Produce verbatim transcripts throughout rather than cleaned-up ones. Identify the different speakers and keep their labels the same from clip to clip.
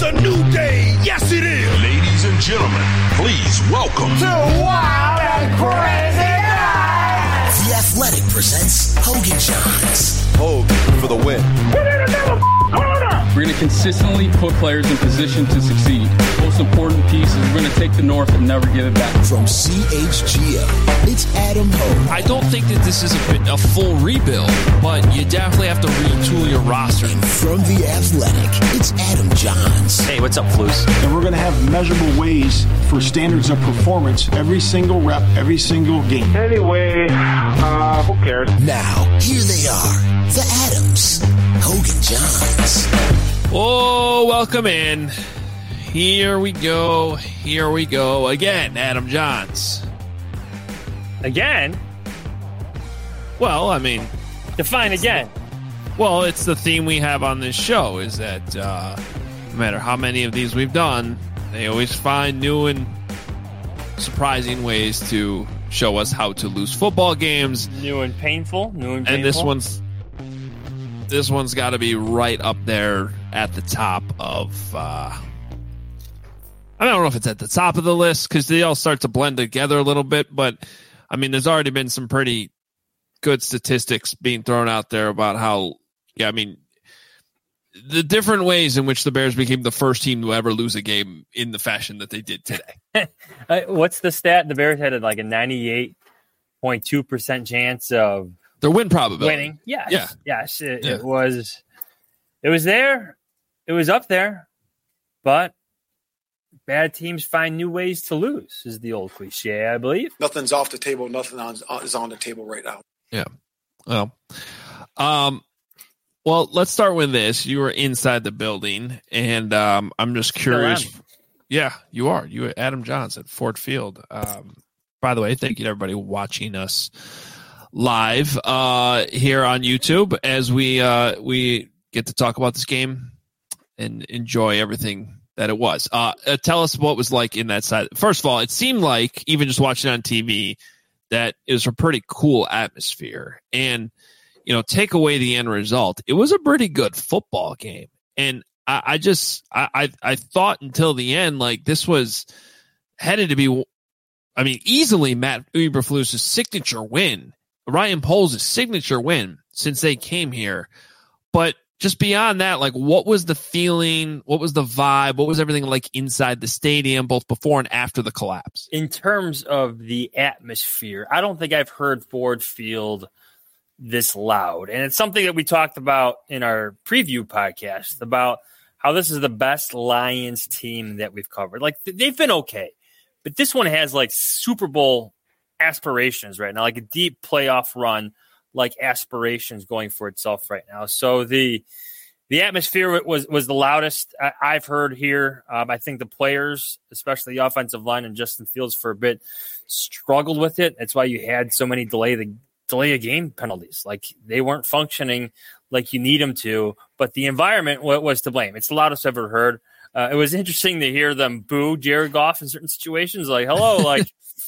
Speaker 1: a new day. Yes, it is.
Speaker 2: Ladies and gentlemen, please welcome
Speaker 3: to Wild and Crazy Night.
Speaker 4: The Athletic presents Hogan Johns.
Speaker 5: Hogan for the win.
Speaker 3: Put in another corner.
Speaker 6: We're going to consistently put players in position to succeed. Most important piece is we're going to take the North and never give it back.
Speaker 4: From C H G O, it's Adam Hogan.
Speaker 7: I don't think that this is a, a full rebuild, but you definitely have to retool your roster.
Speaker 4: And from The Athletic, it's Adam Johns.
Speaker 8: Hey, what's up, Flus?
Speaker 9: And we're going to have measurable ways for standards of performance every single rep, every single game.
Speaker 10: Anyway, uh, who cares?
Speaker 4: Now, here they are, the Adams, Hogan Johns.
Speaker 7: Oh, welcome in. Here we go. Here we go again. Adam Johns.
Speaker 8: Again?
Speaker 7: Well, I mean,
Speaker 8: define again.
Speaker 7: Well, it's the theme we have on this show is that uh, no matter how many of these we've done, they always find new and surprising ways to show us how to lose football games.
Speaker 8: New and painful. New and painful.
Speaker 7: And this one's this one's got to be right up there at the top of. Uh, I don't know if it's at the top of the list because they all start to blend together a little bit, but I mean, there's already been some pretty good statistics being thrown out there about how, yeah, I mean, the different ways in which the Bears became the first team to ever lose a game in the fashion that they did today.
Speaker 8: uh, what's the stat? The Bears had like a ninety-eight point two percent chance of
Speaker 7: their win probability.
Speaker 8: Winning. Yes.
Speaker 7: Yeah.
Speaker 8: Yes. It,
Speaker 7: yeah.
Speaker 8: it was, it was there. It was up there, but bad teams find new ways to lose is the old cliche, I believe.
Speaker 11: Nothing's off the table. Nothing on, is on the table right now.
Speaker 7: Yeah. Well, um, well, let's start with this. You were inside the building, and um, I'm just curious. Yeah, you are. You are Adam Johns at Ford Field. Um, by the way, thank you to everybody watching us live uh, here on YouTube as we uh, we get to talk about this game and enjoy everything that it was. Uh, uh, tell us what it was like in that side. First of all, it seemed like, even just watching it on T V, that it was a pretty cool atmosphere. And, you know, take away the end result, it was a pretty good football game. And I, I just, I, I, I thought until the end, like, this was headed to be, I mean, easily Matt Eberflus's signature win, Ryan Poles' signature win since they came here. But just beyond that, like, what was the feeling? What was the vibe? What was everything like inside the stadium, both before and after the collapse?
Speaker 8: In terms of the atmosphere, I don't think I've heard Ford Field this loud. And it's something that we talked about in our preview podcast about how this is the best Lions team that we've covered. Like, they've been okay, but this one has like Super Bowl aspirations right now, like a deep playoff run, like aspirations going for itself right now. So the the atmosphere was was the loudest I, I've heard here. Um, I think the players, especially the offensive line and Justin Fields for a bit, struggled with it. That's why you had so many delay the delay a game penalties. Like, they weren't functioning like you need them to, but the environment w- was to blame. It's the loudest I've ever heard. Uh, it was interesting to hear them boo Jared Goff in certain situations. Like, hello, like,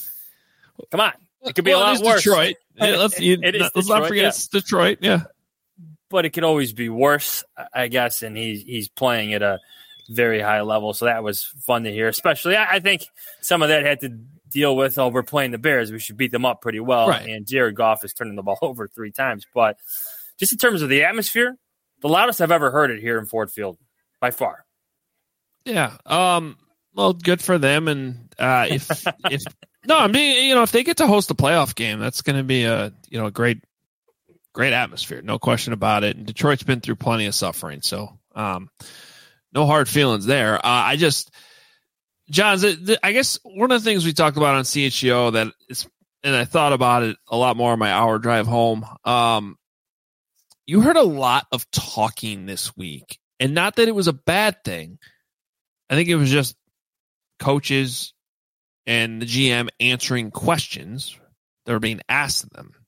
Speaker 8: come on. It could be
Speaker 7: well,
Speaker 8: a lot worse.
Speaker 7: Detroit. Yeah, let's you,
Speaker 8: it is
Speaker 7: let's
Speaker 8: Detroit,
Speaker 7: not forget
Speaker 8: yeah.
Speaker 7: it's Detroit. Yeah,
Speaker 8: but it could always be worse, I guess. And he's he's playing at a very high level, so that was fun to hear. Especially, I, I think some of that had to deal with, oh, we're playing the Bears, we should beat them up pretty well.
Speaker 7: Right.
Speaker 8: And Jared Goff is turning the ball over three times. But just in terms of the atmosphere, the loudest I've ever heard it here in Ford Field, by far.
Speaker 7: Yeah. Um. Well, good for them. And uh, if if no, I mean, you know, if they get to host a playoff game, that's going to be a you know a great, great atmosphere, no question about it. And Detroit's been through plenty of suffering, so um, no hard feelings there. Uh, I just, John, I guess one of the things we talked about on C H G O that is, and I thought about it a lot more on my hour drive home. Um, you heard a lot of talking this week, and not that it was a bad thing. I think it was just coaches and the G M answering questions that were being asked of them.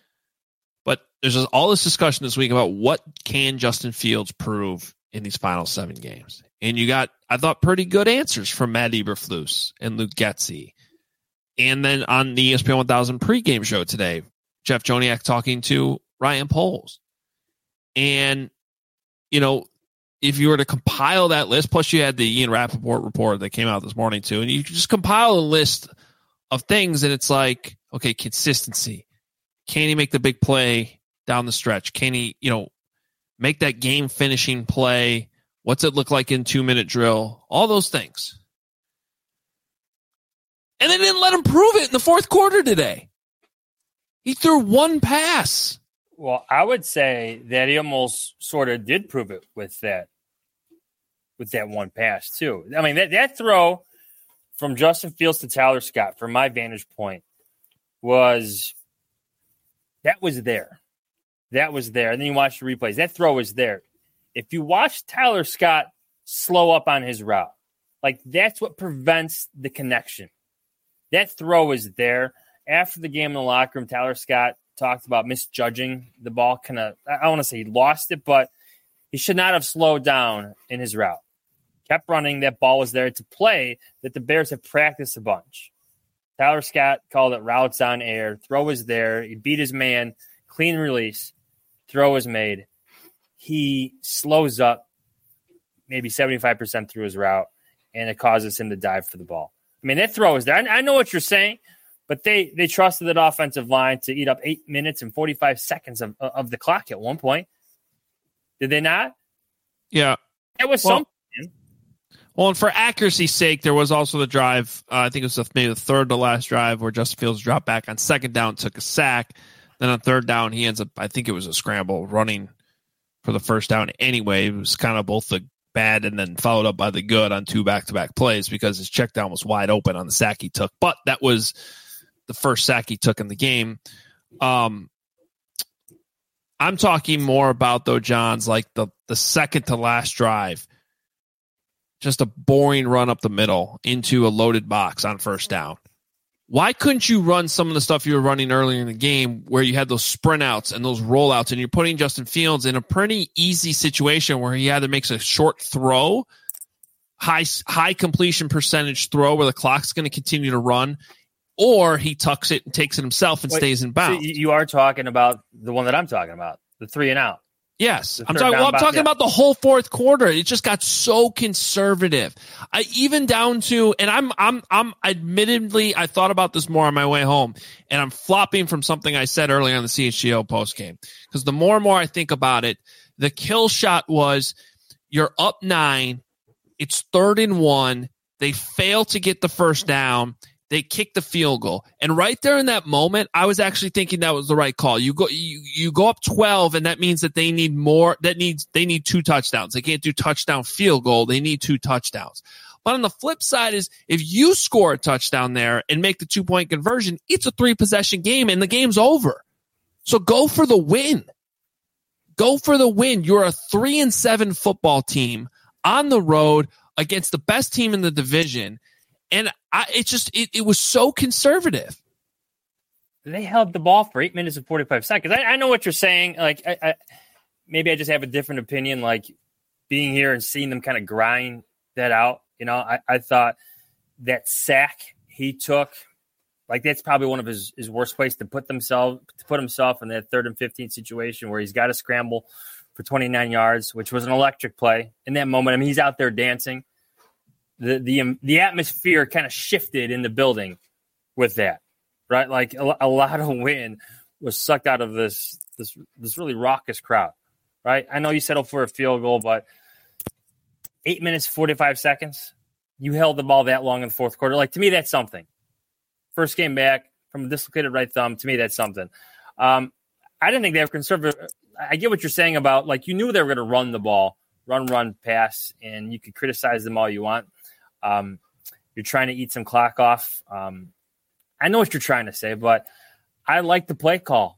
Speaker 7: But there's just all this discussion this week about what can Justin Fields prove in these final seven games. And you got, I thought, pretty good answers from Matt Eberflus and Luke Getsy. And then on the E S P N one thousand pregame show today, Jeff Joniak talking to Ryan Poles. And, you know, if you were to compile that list, plus you had the Ian Rappaport report that came out this morning too, and you just compile a list of things, and it's like, okay, consistency. Can he make the big play down the stretch? Can he, you know, make that game finishing play? What's it look like in two minute drill? All those things. And they didn't let him prove it in the fourth quarter today. He threw one pass.
Speaker 8: Well, I would say that he almost sort of did prove it with that, with that one pass too. I mean, that, that throw from Justin Fields to Tyler Scott, from my vantage point, was that was there. That was there. And then you watch the replays. That throw was there. If you watch Tyler Scott slow up on his route, like that's what prevents the connection. That throw is there. After the game in the locker room, Tyler Scott talked about misjudging the ball. Kind of, I don't want to say he lost it, but he should not have slowed down in his route. Kept running. That ball was there to play that the Bears have practiced a bunch. Tyler Scott called it routes on air. Throw was there. He beat his man. Clean release. Throw was made. He slows up maybe seventy-five percent through his route, and it causes him to dive for the ball. I mean, that throw is there. I, I know what you're saying, but they they trusted that offensive line to eat up eight minutes and forty-five seconds of, of the clock at one point. Did they not?
Speaker 7: Yeah.
Speaker 8: That was
Speaker 7: well,
Speaker 8: something.
Speaker 7: Well, and for accuracy's sake, there was also the drive, uh, I think it was the, maybe the third to last drive, where Justin Fields dropped back on second down, took a sack. Then on third down, he ends up, I think it was a scramble, running for the first down anyway. It was kind of both the bad and then followed up by the good on two back-to-back plays because his check down was wide open on the sack he took. But that was the first sack he took in the game. Um, I'm talking more about, though, John's, like the, the second to last drive. Just a boring run up the middle into a loaded box on first down. Why couldn't you run some of the stuff you were running earlier in the game where you had those sprint outs and those rollouts, and you're putting Justin Fields in a pretty easy situation where he either makes a short throw, high high completion percentage throw where the clock's going to continue to run, or he tucks it and takes it himself and Wait, stays in bounds.
Speaker 8: So you are talking about the one that I'm talking about, the three and out.
Speaker 7: Yes, I'm talking. Well, I'm talking yeah. about the whole fourth quarter. It just got so conservative. I even down to, and I'm, I'm, I'm. Admittedly, I thought about this more on my way home, and I'm flopping from something I said earlier on the C H G O post game because the more and more I think about it, the kill shot was you're up nine, it's third and one, they fail to get the first down. They kick the field goal. And right there in that moment, I was actually thinking that was the right call. You go you, you go up twelve, and that means that they need more that needs they need two touchdowns. They can't do touchdown field goal. They need two touchdowns. But on the flip side is if you score a touchdown there and make the two-point conversion, it's a three-possession game and the game's over. So go for the win. Go for the win. You're a three and seven football team on the road against the best team in the division. And I, it just, it, it was so conservative.
Speaker 8: They held the ball for eight minutes and forty-five seconds. I, I know what you're saying. Like, I, I, maybe I just have a different opinion, like being here and seeing them kind of grind that out. You know, I, I thought that sack he took, like that's probably one of his, his worst ways to put themselves, to put himself in that third and fifteen situation where he's got to scramble for twenty-nine yards, which was an electric play in that moment. I mean, he's out there dancing. The the um, the atmosphere kind of shifted in the building with that, right? Like a, a lot of wind was sucked out of this this this really raucous crowd, right? I know you settled for a field goal, but eight minutes forty-five seconds, you held the ball that long in the fourth quarter. Like to me, that's something. First game back from a dislocated right thumb. To me, that's something. Um, I didn't think they were conservative. I get what you're saying about like you knew they were going to run the ball, run, run, pass, and you could criticize them all you want. Um, you're trying to eat some clock off. Um, I know what you're trying to say, but I like the play call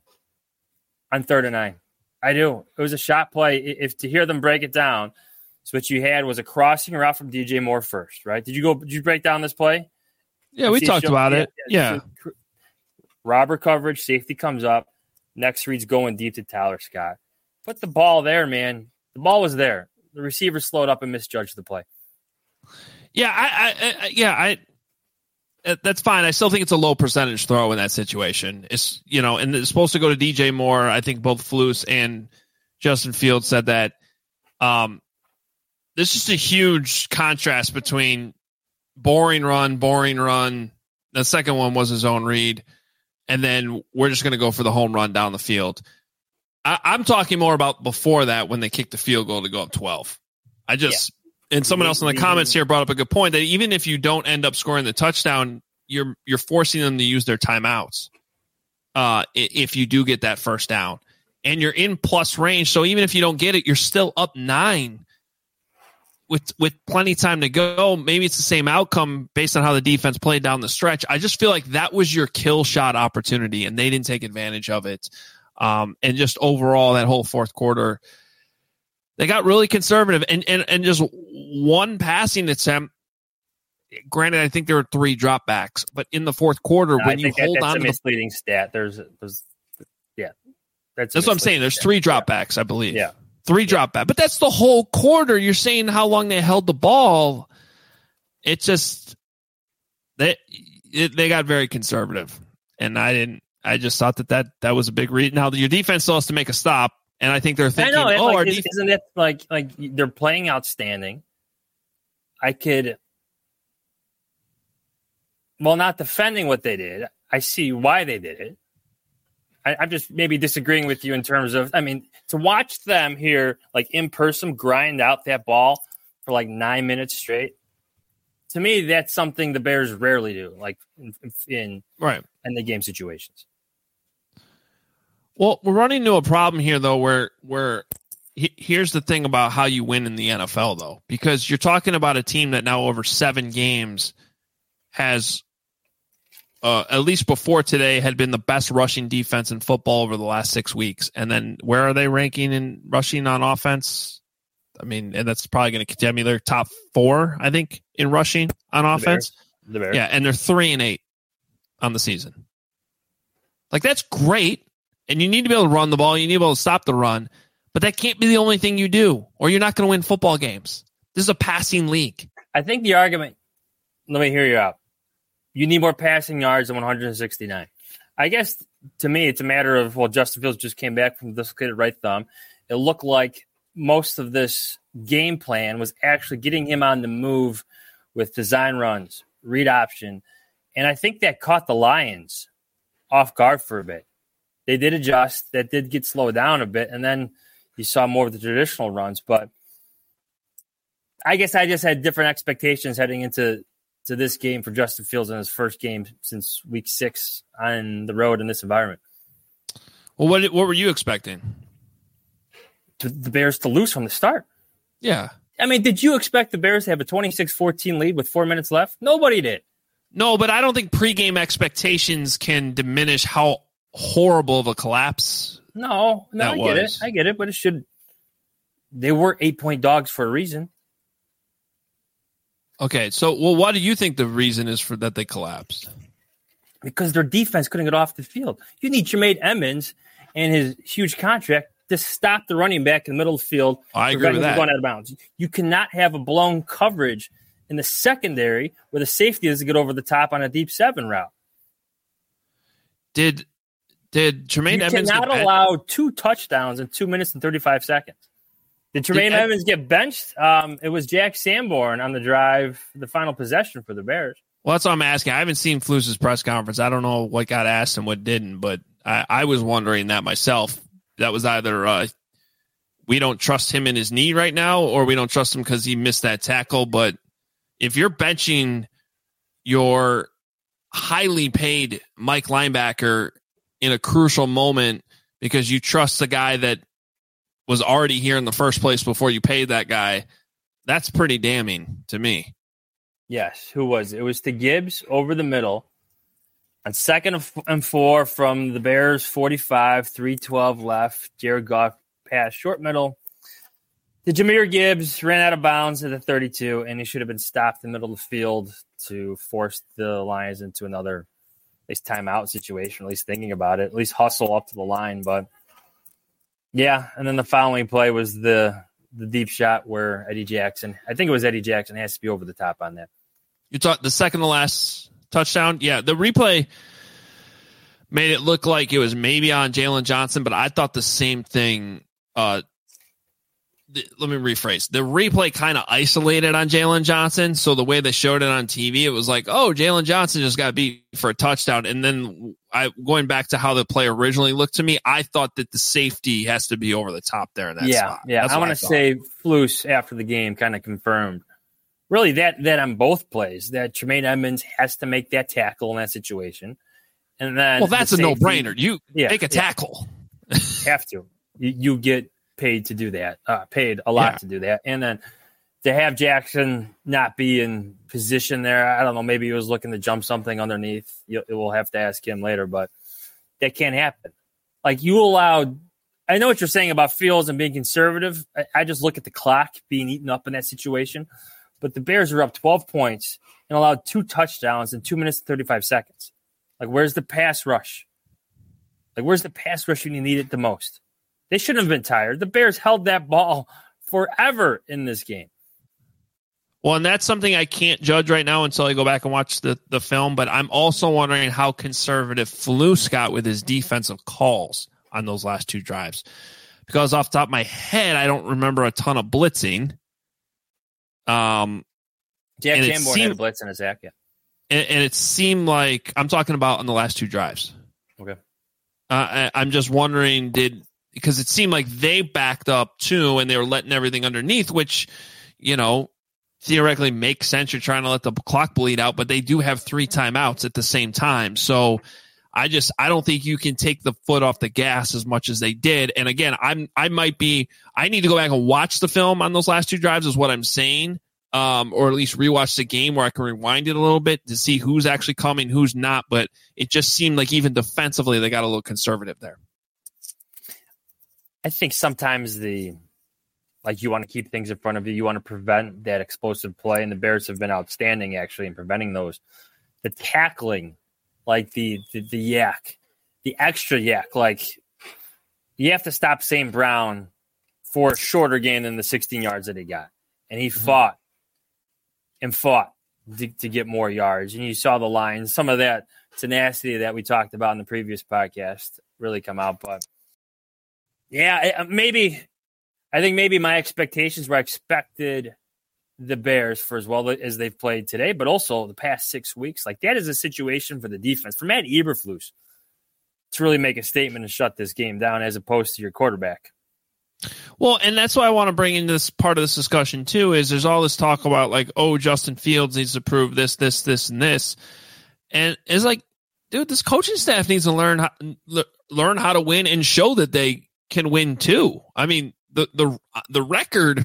Speaker 8: on third and nine. I do. It was a shot play. If to hear them break it down, so what you had was a crossing route from D J Moore first, right? Did you go? Did you break down this play?
Speaker 7: Yeah, we talked about it. Yeah.
Speaker 8: So, robber coverage, safety comes up. Next read's going deep to Tyler Scott. Put the ball there, man. The ball was there. The receiver slowed up and misjudged the play.
Speaker 7: Yeah, I, I, I yeah, I. That's fine. I still think it's a low percentage throw in that situation. It's you know, and it's supposed to go to D J Moore. I think both Flus and Justin Fields said that. Um, this is a huge contrast between boring run, boring run. The second one was his own read. And then we're just going to go for the home run down the field. I, I'm talking more about before that when they kicked the field goal to go up twelve. I just, yeah. and someone else in the comments here brought up a good point that even if you don't end up scoring the touchdown, you're you're forcing them to use their timeouts uh, if you do get that first down. And you're in plus range, so even if you don't get it, you're still up nine with with plenty of time to go. Maybe it's the same outcome based on how the defense played down the stretch. I just feel like that was your kill shot opportunity, and they didn't take advantage of it. Um, and just overall, that whole fourth quarter, they got really conservative. And and and just one passing attempt. Granted, I think there were three dropbacks, but in the fourth quarter,
Speaker 8: no,
Speaker 7: when
Speaker 8: I
Speaker 7: you
Speaker 8: think
Speaker 7: hold
Speaker 8: that, that's
Speaker 7: on
Speaker 8: a
Speaker 7: to
Speaker 8: misleading the, stat, there's there's yeah, that's
Speaker 7: that's what I'm saying. There's
Speaker 8: stat.
Speaker 7: three dropbacks, I believe.
Speaker 8: Yeah.
Speaker 7: Three
Speaker 8: yeah.
Speaker 7: drop back, but that's the whole quarter. You're saying how long they held the ball. It just they it, they got very conservative, and I didn't. I just thought that that, that was a big read. Now your defense still has to make a stop, and I think they're thinking,
Speaker 8: I know,
Speaker 7: "Oh,
Speaker 8: like,
Speaker 7: our
Speaker 8: is,
Speaker 7: def-
Speaker 8: isn't it like like they're playing outstanding?" I could, well, not defending what they did. I see why they did it. I'm just maybe disagreeing with you in terms of, I mean, to watch them here, like in person, grind out that ball for like nine minutes straight. To me, that's something the Bears rarely do, like in, in
Speaker 7: right
Speaker 8: in the game situations.
Speaker 7: Well, we're running into a problem here, though, where where he, here's the thing about how you win in the N F L, though, because you're talking about a team that now over seven games has. Uh, at least before today, had been the best rushing defense in football over the last six weeks. And then where are they ranking in rushing on offense? I mean, and that's probably going to continue. They're top four, I think, in rushing on
Speaker 8: the
Speaker 7: offense.
Speaker 8: Bears. The Bears.
Speaker 7: Yeah, and they're three and eight on the season. Like, that's great. And you need to be able to run the ball. You need to be able to stop the run. But that can't be the only thing you do, or you're not going to win football games. This is a passing league.
Speaker 8: I think the argument, let me hear you out. You need more passing yards than one hundred sixty-nine. I guess, to me, it's a matter of, well, Justin Fields just came back from dislocated right thumb. It looked like most of this game plan was actually getting him on the move with design runs, read option. And I think that caught the Lions off guard for a bit. They did adjust. That did get slowed down a bit. And then you saw more of the traditional runs. But I guess I just had different expectations heading into to this game for Justin Fields in his first game since week six on the road in this environment.
Speaker 7: Well, what what were you expecting?
Speaker 8: To the Bears to lose from the start.
Speaker 7: Yeah.
Speaker 8: I mean, did you expect the Bears to have a twenty-six fourteen lead with four minutes left? Nobody did.
Speaker 7: No, but I don't think pregame expectations can diminish how horrible of a collapse.
Speaker 8: No, no,
Speaker 7: that
Speaker 8: I get
Speaker 7: was.
Speaker 8: it. I get it, but it should. They were eight-point dogs for a reason.
Speaker 7: Okay, so well, what do you think the reason is for that they collapsed?
Speaker 8: Because their defense couldn't get off the field. You need Jermaine Edmonds and his huge contract to stop the running back in the middle of the field.
Speaker 7: I agree with that.
Speaker 8: Going out of bounds. You cannot have a blown coverage in the secondary where the safety is to get over the top on a deep seven route.
Speaker 7: Did did Jermaine
Speaker 8: you
Speaker 7: Edmonds
Speaker 8: cannot
Speaker 7: get
Speaker 8: allow two touchdowns in two minutes and thirty-five seconds? Did Jermaine
Speaker 7: Did Ed-
Speaker 8: Edmonds get benched? Um, it was Jack Sanborn on the drive, the final possession for the Bears.
Speaker 7: Well, that's what I'm asking. I haven't seen Flus' press conference. I don't know what got asked and what didn't, but I, I was wondering that myself. That was either uh, we don't trust him in his knee right now, or we don't trust him because he missed that tackle. But if you're benching your highly paid Mike linebacker in a crucial moment because you trust the guy that was already here in the first place before you paid that guy, that's pretty damning to me.
Speaker 8: Yes, who was it? It was to Gibbs over the middle on second and four from the Bears forty-five, three twelve left. Jared Goff pass short middle. The Jahmyr Gibbs ran out of bounds at the thirty-two, and he should have been stopped in the middle of the field to force the Lions into another, at least timeout situation, at least thinking about it, at least hustle up to the line. But yeah, and then the following play was the the deep shot where Eddie Jackson, I think it was Eddie Jackson, has to be over the top on that.
Speaker 7: You thought the second to last touchdown? Yeah, the replay made it look like it was maybe on Jalen Johnson, but I thought the same thing. Uh, the, let me rephrase. The replay kind of isolated on Jalen Johnson. So the way they showed it on T V, it was like, oh, Jalen Johnson just got beat for a touchdown. And then I going back to how the play originally looked to me, I thought that the safety has to be over the top there in that
Speaker 8: yeah,
Speaker 7: spot.
Speaker 8: Yeah,
Speaker 7: That's
Speaker 8: I want to say Flus after the game kind of confirmed really that that on both plays that Tremaine Edmonds has to make that tackle in that situation. And then
Speaker 7: well, that's
Speaker 8: the
Speaker 7: a
Speaker 8: safety,
Speaker 7: no-brainer. You
Speaker 8: yeah,
Speaker 7: make a tackle.
Speaker 8: Yeah. Have to. You, you get paid to do that, uh, paid a lot
Speaker 7: yeah.
Speaker 8: to do that. And then to have Jackson not be in position there, I don't know, maybe he was looking to jump something underneath. You, we'll have to ask him later, but that can't happen. Like you allowed, I know what you're saying about Fields and being conservative. I, I just look at the clock being eaten up in that situation. But the Bears are up twelve points and allowed two touchdowns in two minutes and thirty-five seconds. Like, where's the pass rush? Like, where's the pass rush when you need it the most? They shouldn't have been tired. The Bears held that ball forever in this game.
Speaker 7: Well, and that's something I can't judge right now until I go back and watch the, the film. But I'm also wondering how conservative Flus got with his defensive calls on those last two drives. Because off the top of my head, I don't remember a ton of blitzing. Um,
Speaker 8: Jack Sanborn seemed, had a blitz in his act, yeah.
Speaker 7: And, and it seemed like, I'm talking about on the last two drives.
Speaker 8: Okay.
Speaker 7: Uh, I, I'm just wondering, did, because it seemed like they backed up too and they were letting everything underneath, which, you know, theoretically makes sense. You're trying to let the clock bleed out, but they do have three timeouts at the same time. So I just, I don't think you can take the foot off the gas as much as they did. And again, I'm, I might be, I need to go back and watch the film on those last two drives is what I'm saying. Um, or at least rewatch the game where I can rewind it a little bit to see who's actually coming, who's not. But it just seemed like even defensively, they got a little conservative there.
Speaker 8: I think sometimes the, like you want to keep things in front of you. You want to prevent that explosive play. And the Bears have been outstanding actually in preventing those. The tackling, like the, the, the yak, the extra yak, like you have to stop Saint Brown for a shorter gain than the sixteen yards that he got. And he mm-hmm. fought and fought to, to get more yards. And you saw the lines, some of that tenacity that we talked about in the previous podcast really come out. But yeah, maybe, I think maybe my expectations were I expected the Bears for as well as they've played today, but also the past six weeks. Like that is a situation for the defense, for Matt Eberflus to really make a statement and shut this game down as opposed to your quarterback.
Speaker 7: Well, and that's why I want to bring in this part of this discussion too, is there's all this talk about like, oh, Justin Fields needs to prove this, this, this, and this. And it's like, dude, this coaching staff needs to learn how, learn how to win and show that they can win too. I mean, the, the, the record,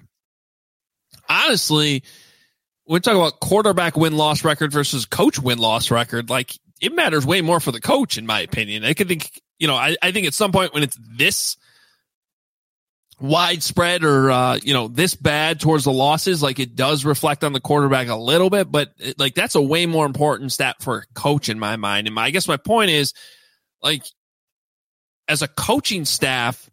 Speaker 7: honestly, we're talking about quarterback win-loss record versus coach win-loss record. Like it matters way more for the coach, in my opinion. I could think, you know, I, I think at some point when it's this widespread or, uh, you know, this bad towards the losses, like it does reflect on the quarterback a little bit, but it, like that's a way more important stat for a coach in my mind. And my, I guess my point is like, as a coaching staff,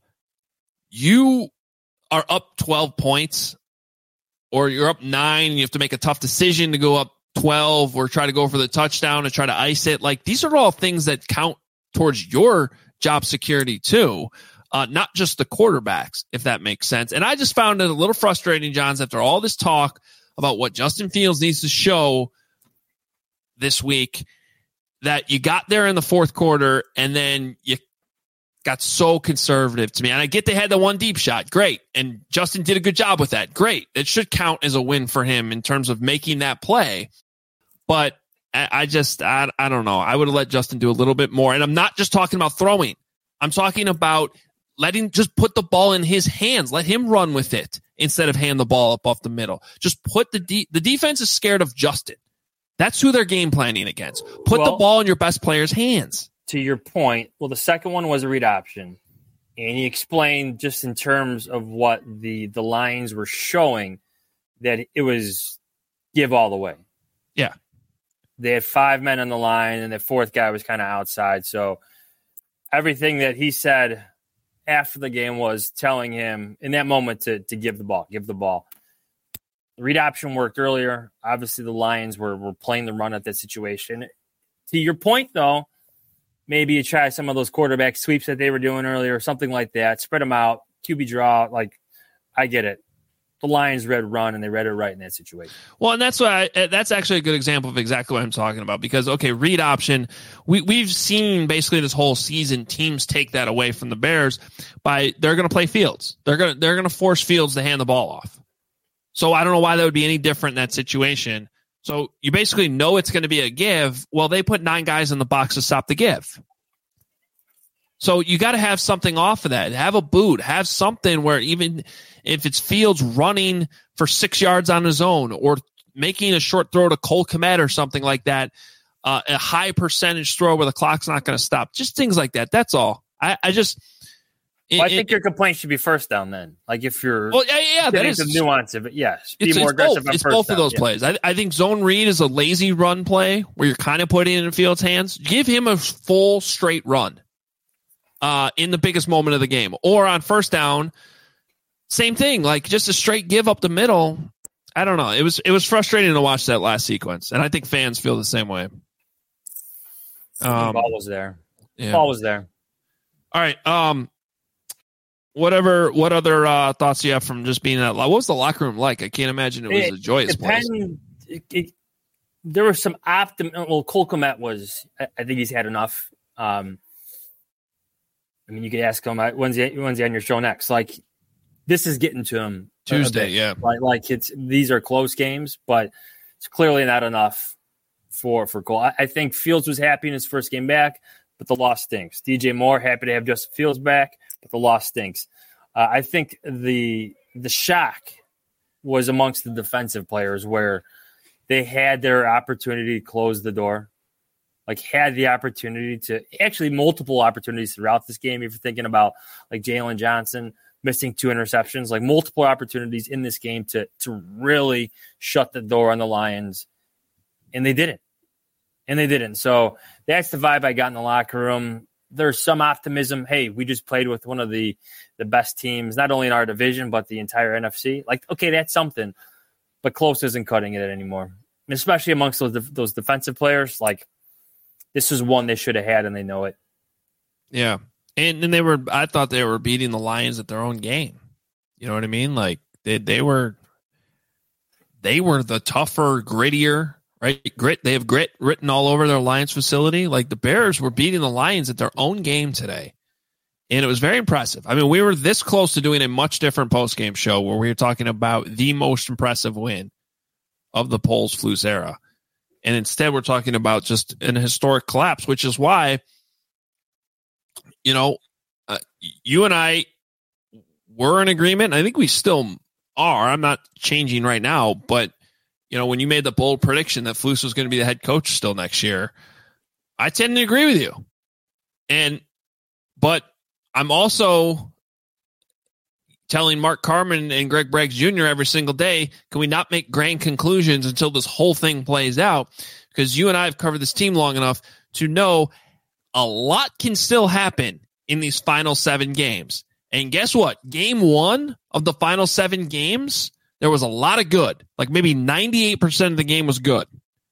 Speaker 7: you are up twelve points or you're up nine and you have to make a tough decision to go up twelve or try to go for the touchdown and try to ice it. Like these are all things that count towards your job security too. Uh, not just the quarterbacks, if that makes sense. And I just found it a little frustrating, Johns, after all this talk about what Justin Fields needs to show this week, that you got there in the fourth quarter and then you got so conservative to me. And I get they had the one deep shot. Great. And Justin did a good job with that. Great. It should count as a win for him in terms of making that play. But I, I just, I, I don't know. I would have let Justin do a little bit more. And I'm not just talking about throwing. I'm talking about letting just put the ball in his hands. Let him run with it instead of hand the ball up off the middle. Just put the de- the defense is scared of Justin. That's who they're game planning against. Put well, the ball in your best player's hands.
Speaker 8: To your point, well, the second one was a read option. And he explained just in terms of what the, the lines were showing that it was give all the way.
Speaker 7: Yeah.
Speaker 8: They had five men on the line and the fourth guy was kind of outside. So everything that he said after the game was telling him in that moment to, to give the ball, give the ball. The read option worked earlier. Obviously, the Lions were, were playing the run at that situation. To your point, though, maybe you try some of those quarterback sweeps that they were doing earlier, something like that. Spread them out, Q B draw. Like, I get it. The Lions read run, and they read it right in that situation.
Speaker 7: Well, and that's why I, that's actually a good example of exactly what I'm talking about. Because okay, read option, we we've seen basically this whole season teams take that away from the Bears by they're going to play Fields. They're going to they're going to force Fields to hand the ball off. So I don't know why that would be any different in that situation. So you basically know it's going to be a give. Well, they put nine guys in the box to stop the give. So you got to have something off of that. Have a boot. Have something where even if it's Fields running for six yards on his own or making a short throw to Cole Kmet or something like that, uh, a high percentage throw where the clock's not going to stop. Just things like that. That's all. I, I just –
Speaker 8: well, I think it, your complaint should be first down then. Like if you're
Speaker 7: well, yeah, yeah, that is
Speaker 8: the nuance of it. Yes, be
Speaker 7: it's,
Speaker 8: more
Speaker 7: it's
Speaker 8: aggressive.
Speaker 7: Both,
Speaker 8: on
Speaker 7: it's
Speaker 8: first
Speaker 7: both
Speaker 8: down.
Speaker 7: of those
Speaker 8: yeah.
Speaker 7: plays. I, I think zone read is a lazy run play where you're kind of putting it in Fields' hands. Give him a full straight run uh, in the biggest moment of the game, or on first down, same thing. Like just a straight give up the middle. I don't know. It was it was frustrating to watch that last sequence, and I think fans feel the same way.
Speaker 8: Um, the ball was there.
Speaker 7: Yeah.
Speaker 8: Ball was there.
Speaker 7: All right. Um. Whatever. What other uh, thoughts do you have from just being that? What was the locker room like? I can't imagine it was
Speaker 8: it,
Speaker 7: a joyous place.
Speaker 8: It, it, there was some optimism. Well, Cole Kmet was. I, I think he's had enough. Um, I mean, you could ask him when's he, when's he on your show next. Like, this is getting to him
Speaker 7: Tuesday. Yeah.
Speaker 8: Like, like it's these are close games, but it's clearly not enough for for Cole. I, I think Fields was happy in his first game back, but the loss stinks. D J Moore happy to have Justin Fields back, but the loss stinks. Uh, I think the the shock was amongst the defensive players where they had their opportunity to close the door, like had the opportunity to actually multiple opportunities throughout this game. If you're thinking about like Jalen Johnson missing two interceptions, like multiple opportunities in this game to to really shut the door on the Lions, and they didn't. And they didn't. So that's the vibe I got in the locker room. There's some optimism. Hey, we just played with one of the, the best teams, not only in our division, but the entire N F C. Like, okay, that's something. But close isn't cutting it anymore. And especially amongst those those defensive players. Like, this is one they should have had, and they know it.
Speaker 7: Yeah. And, and they were, I thought they were beating the Lions at their own game. You know what I mean? Like, they, they were, they were the tougher, grittier, right? Grit. They have grit written all over their Lions facility. Like the Bears were beating the Lions at their own game today. And it was very impressive. I mean, we were this close to doing a much different post-game show where we were talking about the most impressive win of the Poles Flus era. And instead we're talking about just an historic collapse, which is why, you know, uh, you and I were in agreement. I think we still are. I'm not changing right now, but you know, when you made the bold prediction that Flus was going to be the head coach still next year, I tend to agree with you. And, but I'm also telling Mark Carman and Greg Braggs Junior every single day, can we not make grand conclusions until this whole thing plays out? Because you and I have covered this team long enough to know a lot can still happen in these final seven games. And guess what? Game one of the final seven games, there was a lot of good. Like maybe ninety-eight percent of the game was good.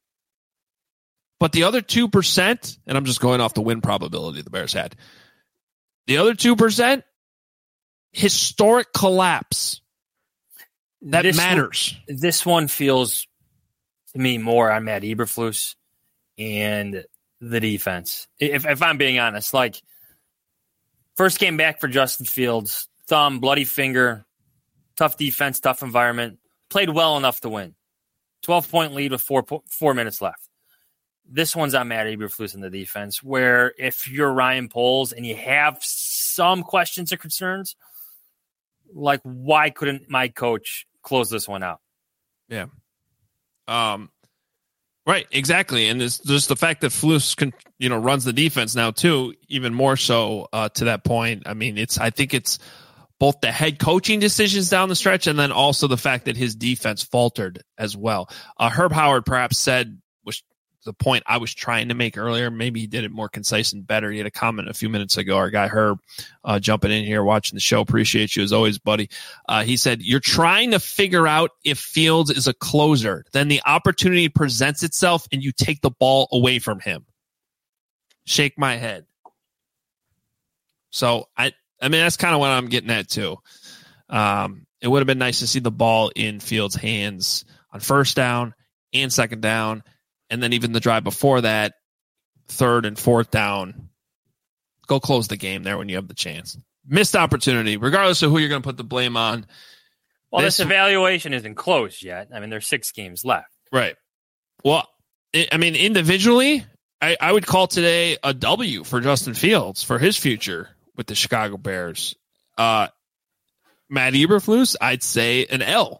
Speaker 7: But the other two percent, and I'm just going off the win probability the Bears had, the other two percent, historic collapse. That
Speaker 8: this
Speaker 7: matters.
Speaker 8: One, this one feels to me more on Matt Eberflus and the defense. If, if I'm being honest, like first game back for Justin Fields, thumb, bloody finger, tough defense, tough environment, played well enough to win. twelve-point lead with four four minutes left. This one's on Matt Eberflus in the defense, where if you're Ryan Poles and you have some questions or concerns, like why couldn't my coach close this one out?
Speaker 7: Yeah. Um. Right, exactly, and it's just the fact that Flus can, you know, runs the defense now too, even more so uh, to that point. I mean, it's I think it's both the head coaching decisions down the stretch, and then also the fact that his defense faltered as well. Uh, Herb Howard perhaps said, which the point I was trying to make earlier, maybe he did it more concise and better. He had a comment a few minutes ago. Our guy Herb uh, jumping in here, watching the show. Appreciate you as always, buddy. Uh, he said, you're trying to figure out if Fields is a closer. Then the opportunity presents itself and you take the ball away from him. Shake my head. So, I, I mean, that's kind of what I'm getting at too. Um, it would have been nice to see the ball in Fields' hands on first down and second down, and then even the drive before that, third and fourth down. Go close the game there when you have the chance. Missed opportunity, regardless of who you're going to put the blame on.
Speaker 8: Well, this, this evaluation isn't closed yet. I mean, there's six games left.
Speaker 7: Right. Well, it, I mean, individually, I, I would call today a W for Justin Fields for his future with the Chicago Bears. Uh, Matt Eberflus, I'd say an L.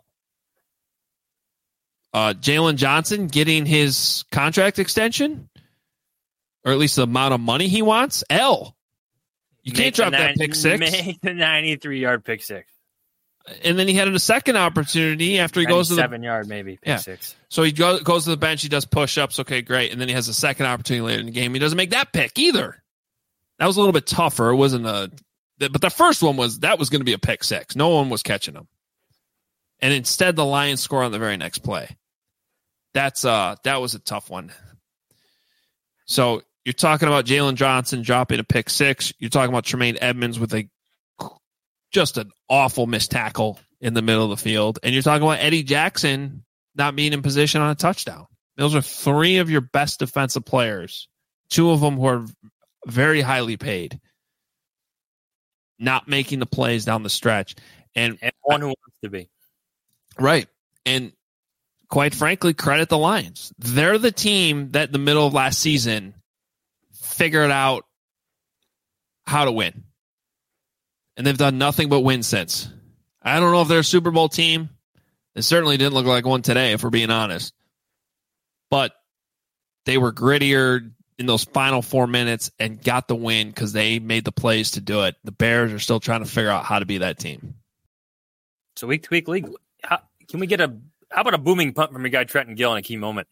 Speaker 7: Uh, Jalen Johnson getting his contract extension, or at least the amount of money he wants, L. You can't drop
Speaker 8: nine,
Speaker 7: that pick six.
Speaker 8: Make the ninety-three yard pick six.
Speaker 7: And then he had a second opportunity after he goes to the
Speaker 8: seven yard maybe pick
Speaker 7: yeah.
Speaker 8: six.
Speaker 7: So he go, goes to the bench. He does push ups. Okay, great. And then he has a second opportunity later in the game. He doesn't make that pick either. That was a little bit tougher. It wasn't a, but the first one was that was going to be a pick six. No one was catching him. And instead, the Lions score on the very next play. That's uh that was a tough one. So you're talking about Jalen Johnson dropping a pick six. You're talking about Tremaine Edmonds with a just an awful missed tackle in the middle of the field. And you're talking about Eddie Jackson not being in position on a touchdown. Those are three of your best defensive players, two of them who are very highly paid, not making the plays down the stretch. And,
Speaker 8: and one who wants to be.
Speaker 7: Right. And quite frankly, credit the Lions. They're the team that in the middle of last season figured out how to win. And they've done nothing but win since. I don't know if they're a Super Bowl team. It certainly didn't look like one today, if we're being honest. But they were grittier in those final four minutes and got the win because they made the plays to do it. The Bears are still trying to figure out how to be that team.
Speaker 8: So week to week league, how, can we get a how about a booming punt from your guy Trenton Gill in a key moment?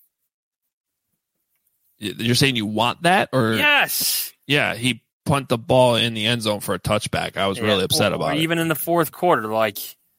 Speaker 7: You're saying you want that, or
Speaker 8: yes?
Speaker 7: Yeah, he punt the ball in the end zone for a touchback. I was yeah, really upset
Speaker 8: or,
Speaker 7: about
Speaker 8: or
Speaker 7: it.
Speaker 8: Even in the fourth quarter, like,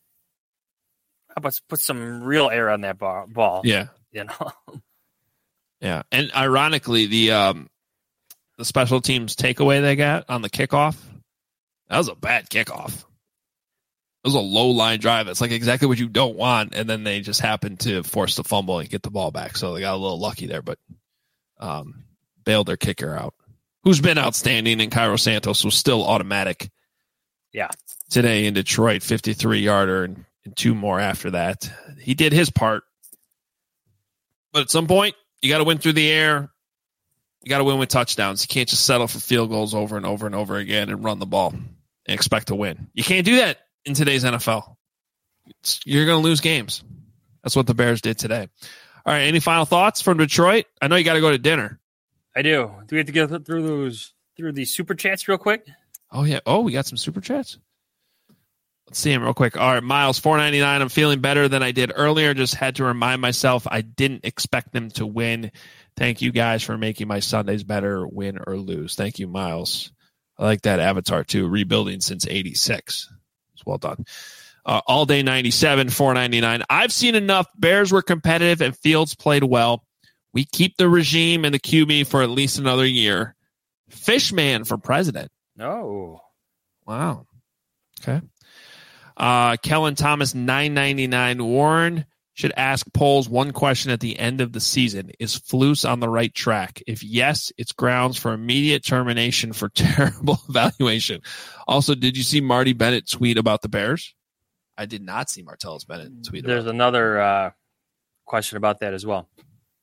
Speaker 8: how about put some real air on that ball?
Speaker 7: Yeah,
Speaker 8: you know.
Speaker 7: Yeah, and ironically, the um, the special teams takeaway they got on the kickoff, that was a bad kickoff. It was a low line drive. It's like exactly what you don't want, and then they just happened to force the fumble and get the ball back. So they got a little lucky there, but um, bailed their kicker out, who's been outstanding, and Cairo Santos was still automatic.
Speaker 8: Yeah,
Speaker 7: today in Detroit, fifty-three yarder, and, and two more after that. He did his part, but at some point, you got to win through the air. You got to win with touchdowns. You can't just settle for field goals over and over and over again and run the ball and expect to win. You can't do that in today's N F L. It's, you're going to lose games. That's what the Bears did today. All right, any final thoughts from Detroit? I know you got to go to dinner.
Speaker 8: I do. Do we have to get through those through these super chats real quick?
Speaker 7: Oh yeah. Oh, we got some super chats. Let's see them real quick. All right, Miles, four ninety-nine. I'm feeling better than I did earlier. Just had to remind myself I didn't expect them to win. Thank you guys for making my Sundays better, win or lose. Thank you, Miles. I like that avatar too. Rebuilding since eighty-six. It's well done. Uh, all day ninety-seven, four ninety-nine. I've seen enough. Bears were competitive and Fields played well. We keep the regime and the Q B for at least another year. Fishman for president.
Speaker 8: Oh.
Speaker 7: Wow. Okay. Uh, Kellen Thomas, nine ninety-nine. Warren should ask Poles one question at the end of the season. Is Flus on the right track? If yes, it's grounds for immediate termination for terrible evaluation. Also, did you see Marty Bennett tweet about the Bears? I did not see Martellus Bennett tweet
Speaker 8: There's
Speaker 7: about
Speaker 8: another uh, question about that as well.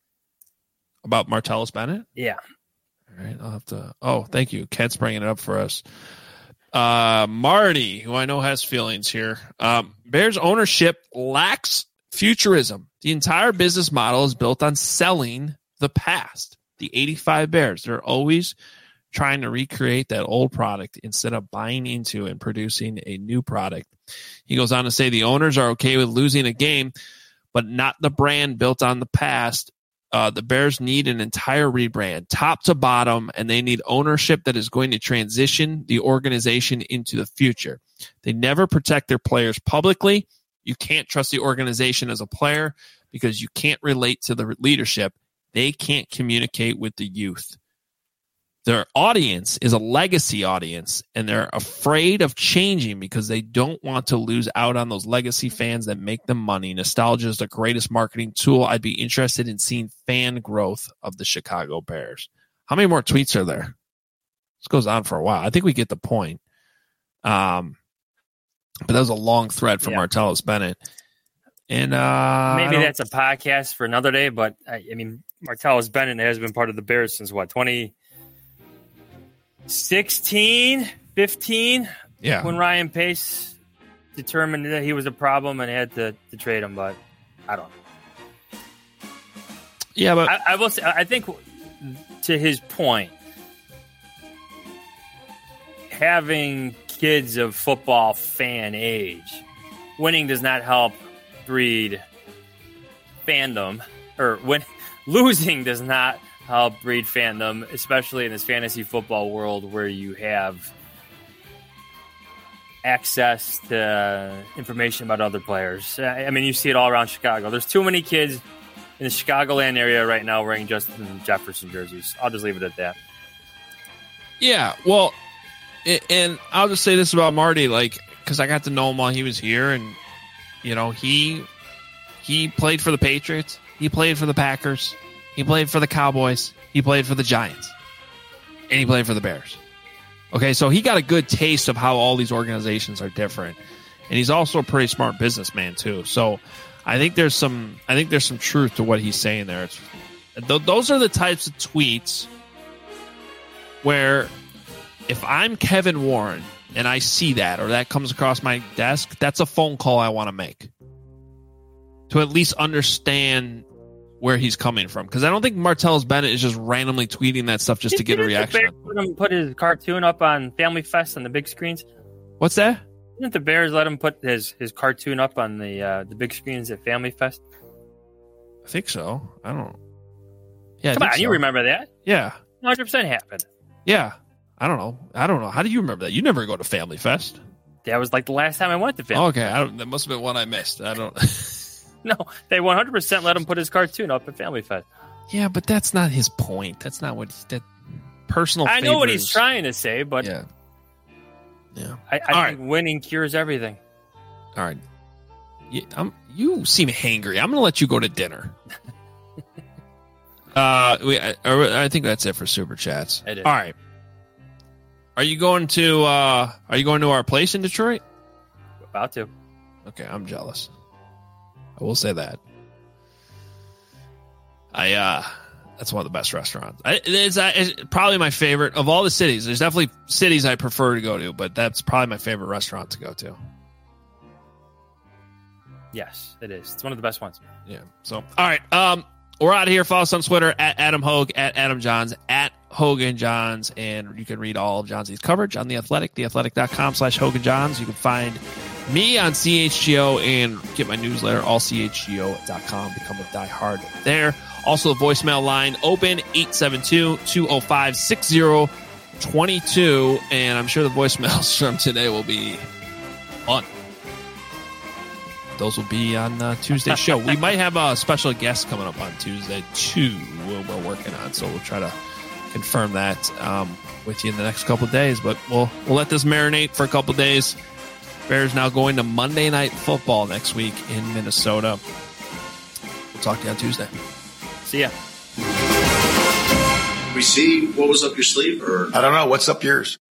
Speaker 7: About Martellus Bennett?
Speaker 8: Yeah.
Speaker 7: All right, I'll have to. Oh, thank you. Kent's bringing it up for us. Uh, Marty, who I know has feelings here. Um, Bears ownership lacks futurism. The entire business model is built on selling the past. The eighty-five Bears, they're always trying to recreate that old product instead of buying into and producing a new product. He goes on to say the owners are okay with losing a game, but not the brand built on the past. Uh, the Bears need an entire rebrand, top to bottom, and they need ownership that is going to transition the organization into the future. They never protect their players publicly. You can't trust the organization as a player because you can't relate to the leadership. They can't communicate with the youth. Their audience is a legacy audience, and they're afraid of changing because they don't want to lose out on those legacy fans that make them money. Nostalgia is the greatest marketing tool. I'd be interested in seeing fan growth of the Chicago Bears. How many more tweets are there? This goes on for a while. I think we get the point. Um, but that was a long thread from yeah. Martellus Bennett. And uh,
Speaker 8: maybe that's a podcast for another day, but I, I mean, Martellus Bennett has been part of the Bears since what, twenty sixteen, fifteen?
Speaker 7: Yeah.
Speaker 8: When Ryan Pace determined that he was a problem and had to, to trade him, but I don't know.
Speaker 7: Yeah, but
Speaker 8: I, I will say, I think to his point, having kids of football fan age, winning does not help breed fandom, or when losing does not help breed fandom, especially in this fantasy football world where you have access to information about other players. I mean, you see it all around Chicago. There's too many kids in the Chicagoland area right now wearing Justin Jefferson jerseys. I'll just leave it at that.
Speaker 7: Yeah, well, and I'll just say this about Marty, like, because I got to know him while he was here, and you know, he he played for the Patriots, he played for the Packers, he played for the Cowboys, he played for the Giants, and he played for the Bears. Okay, so he got a good taste of how all these organizations are different, and he's also a pretty smart businessman too. So I think there's some I think there's some truth to what he's saying there. It's, th- those are the types of tweets where if I'm Kevin Warren and I see that, or that comes across my desk, that's a phone call I want to make to at least understand where he's coming from. Because I don't think Martellus Bennett is just randomly tweeting that stuff just to get a reaction.
Speaker 8: Let him put his cartoon up on Family Fest on the big screens.
Speaker 7: What's that?
Speaker 8: Didn't the Bears let him put his, his cartoon up on the uh, the big screens at Family Fest?
Speaker 7: I think so. I don't. Yeah,
Speaker 8: come on,
Speaker 7: so.
Speaker 8: You remember that?
Speaker 7: Yeah,
Speaker 8: one hundred percent happened.
Speaker 7: Yeah. I don't know. I don't know. How do you remember that? You never go to Family Fest.
Speaker 8: That was like the last time I went to Family
Speaker 7: okay, I don't, that must have been one I missed. I don't.
Speaker 8: No, they one hundred percent let him put his cartoon up at Family Fest.
Speaker 7: Yeah, but that's not his point. That's not what that personal.
Speaker 8: I know
Speaker 7: favors.
Speaker 8: what he's trying to say, but
Speaker 7: yeah, yeah.
Speaker 8: I, I think right. winning cures everything.
Speaker 7: All right, you, I'm, you seem hangry. I'm going to let you go to dinner. uh, we, I, I think that's it for super chats.
Speaker 8: It is.
Speaker 7: All right. Are you going to uh, Are you going to our place in Detroit?
Speaker 8: About to.
Speaker 7: Okay, I'm jealous. I will say that. I uh, that's one of the best restaurants. I, it's, uh, it's probably my favorite of all the cities. There's definitely cities I prefer to go to, but that's probably my favorite restaurant to go to.
Speaker 8: Yes, it is. It's one of the best ones.
Speaker 7: Yeah. So, all right. Um, we're out of here. Follow us on Twitter at Adam Hogue, at Adam Johns, at Hogan Johns, and you can read all of Johnsy's coverage on The Athletic, theathletic.com slash Hogan Johns. You can find me on C H G O and get my newsletter, all C H G O dot com. Become a diehard there. Also, the voicemail line open, eight seven two, two oh five, six oh two two, and I'm sure the voicemails from today will be fun. Those will be on uh, Tuesday's show. We might have a special guest coming up on Tuesday, too, we're working on, so we'll try to confirm that um, with you in the next couple of days, but we'll we'll let this marinate for a couple of days. Bears now going to Monday Night Football next week in Minnesota. We'll talk to you on Tuesday.
Speaker 8: See ya.
Speaker 5: We see what was up your sleeve, or
Speaker 1: I don't know. What's up yours?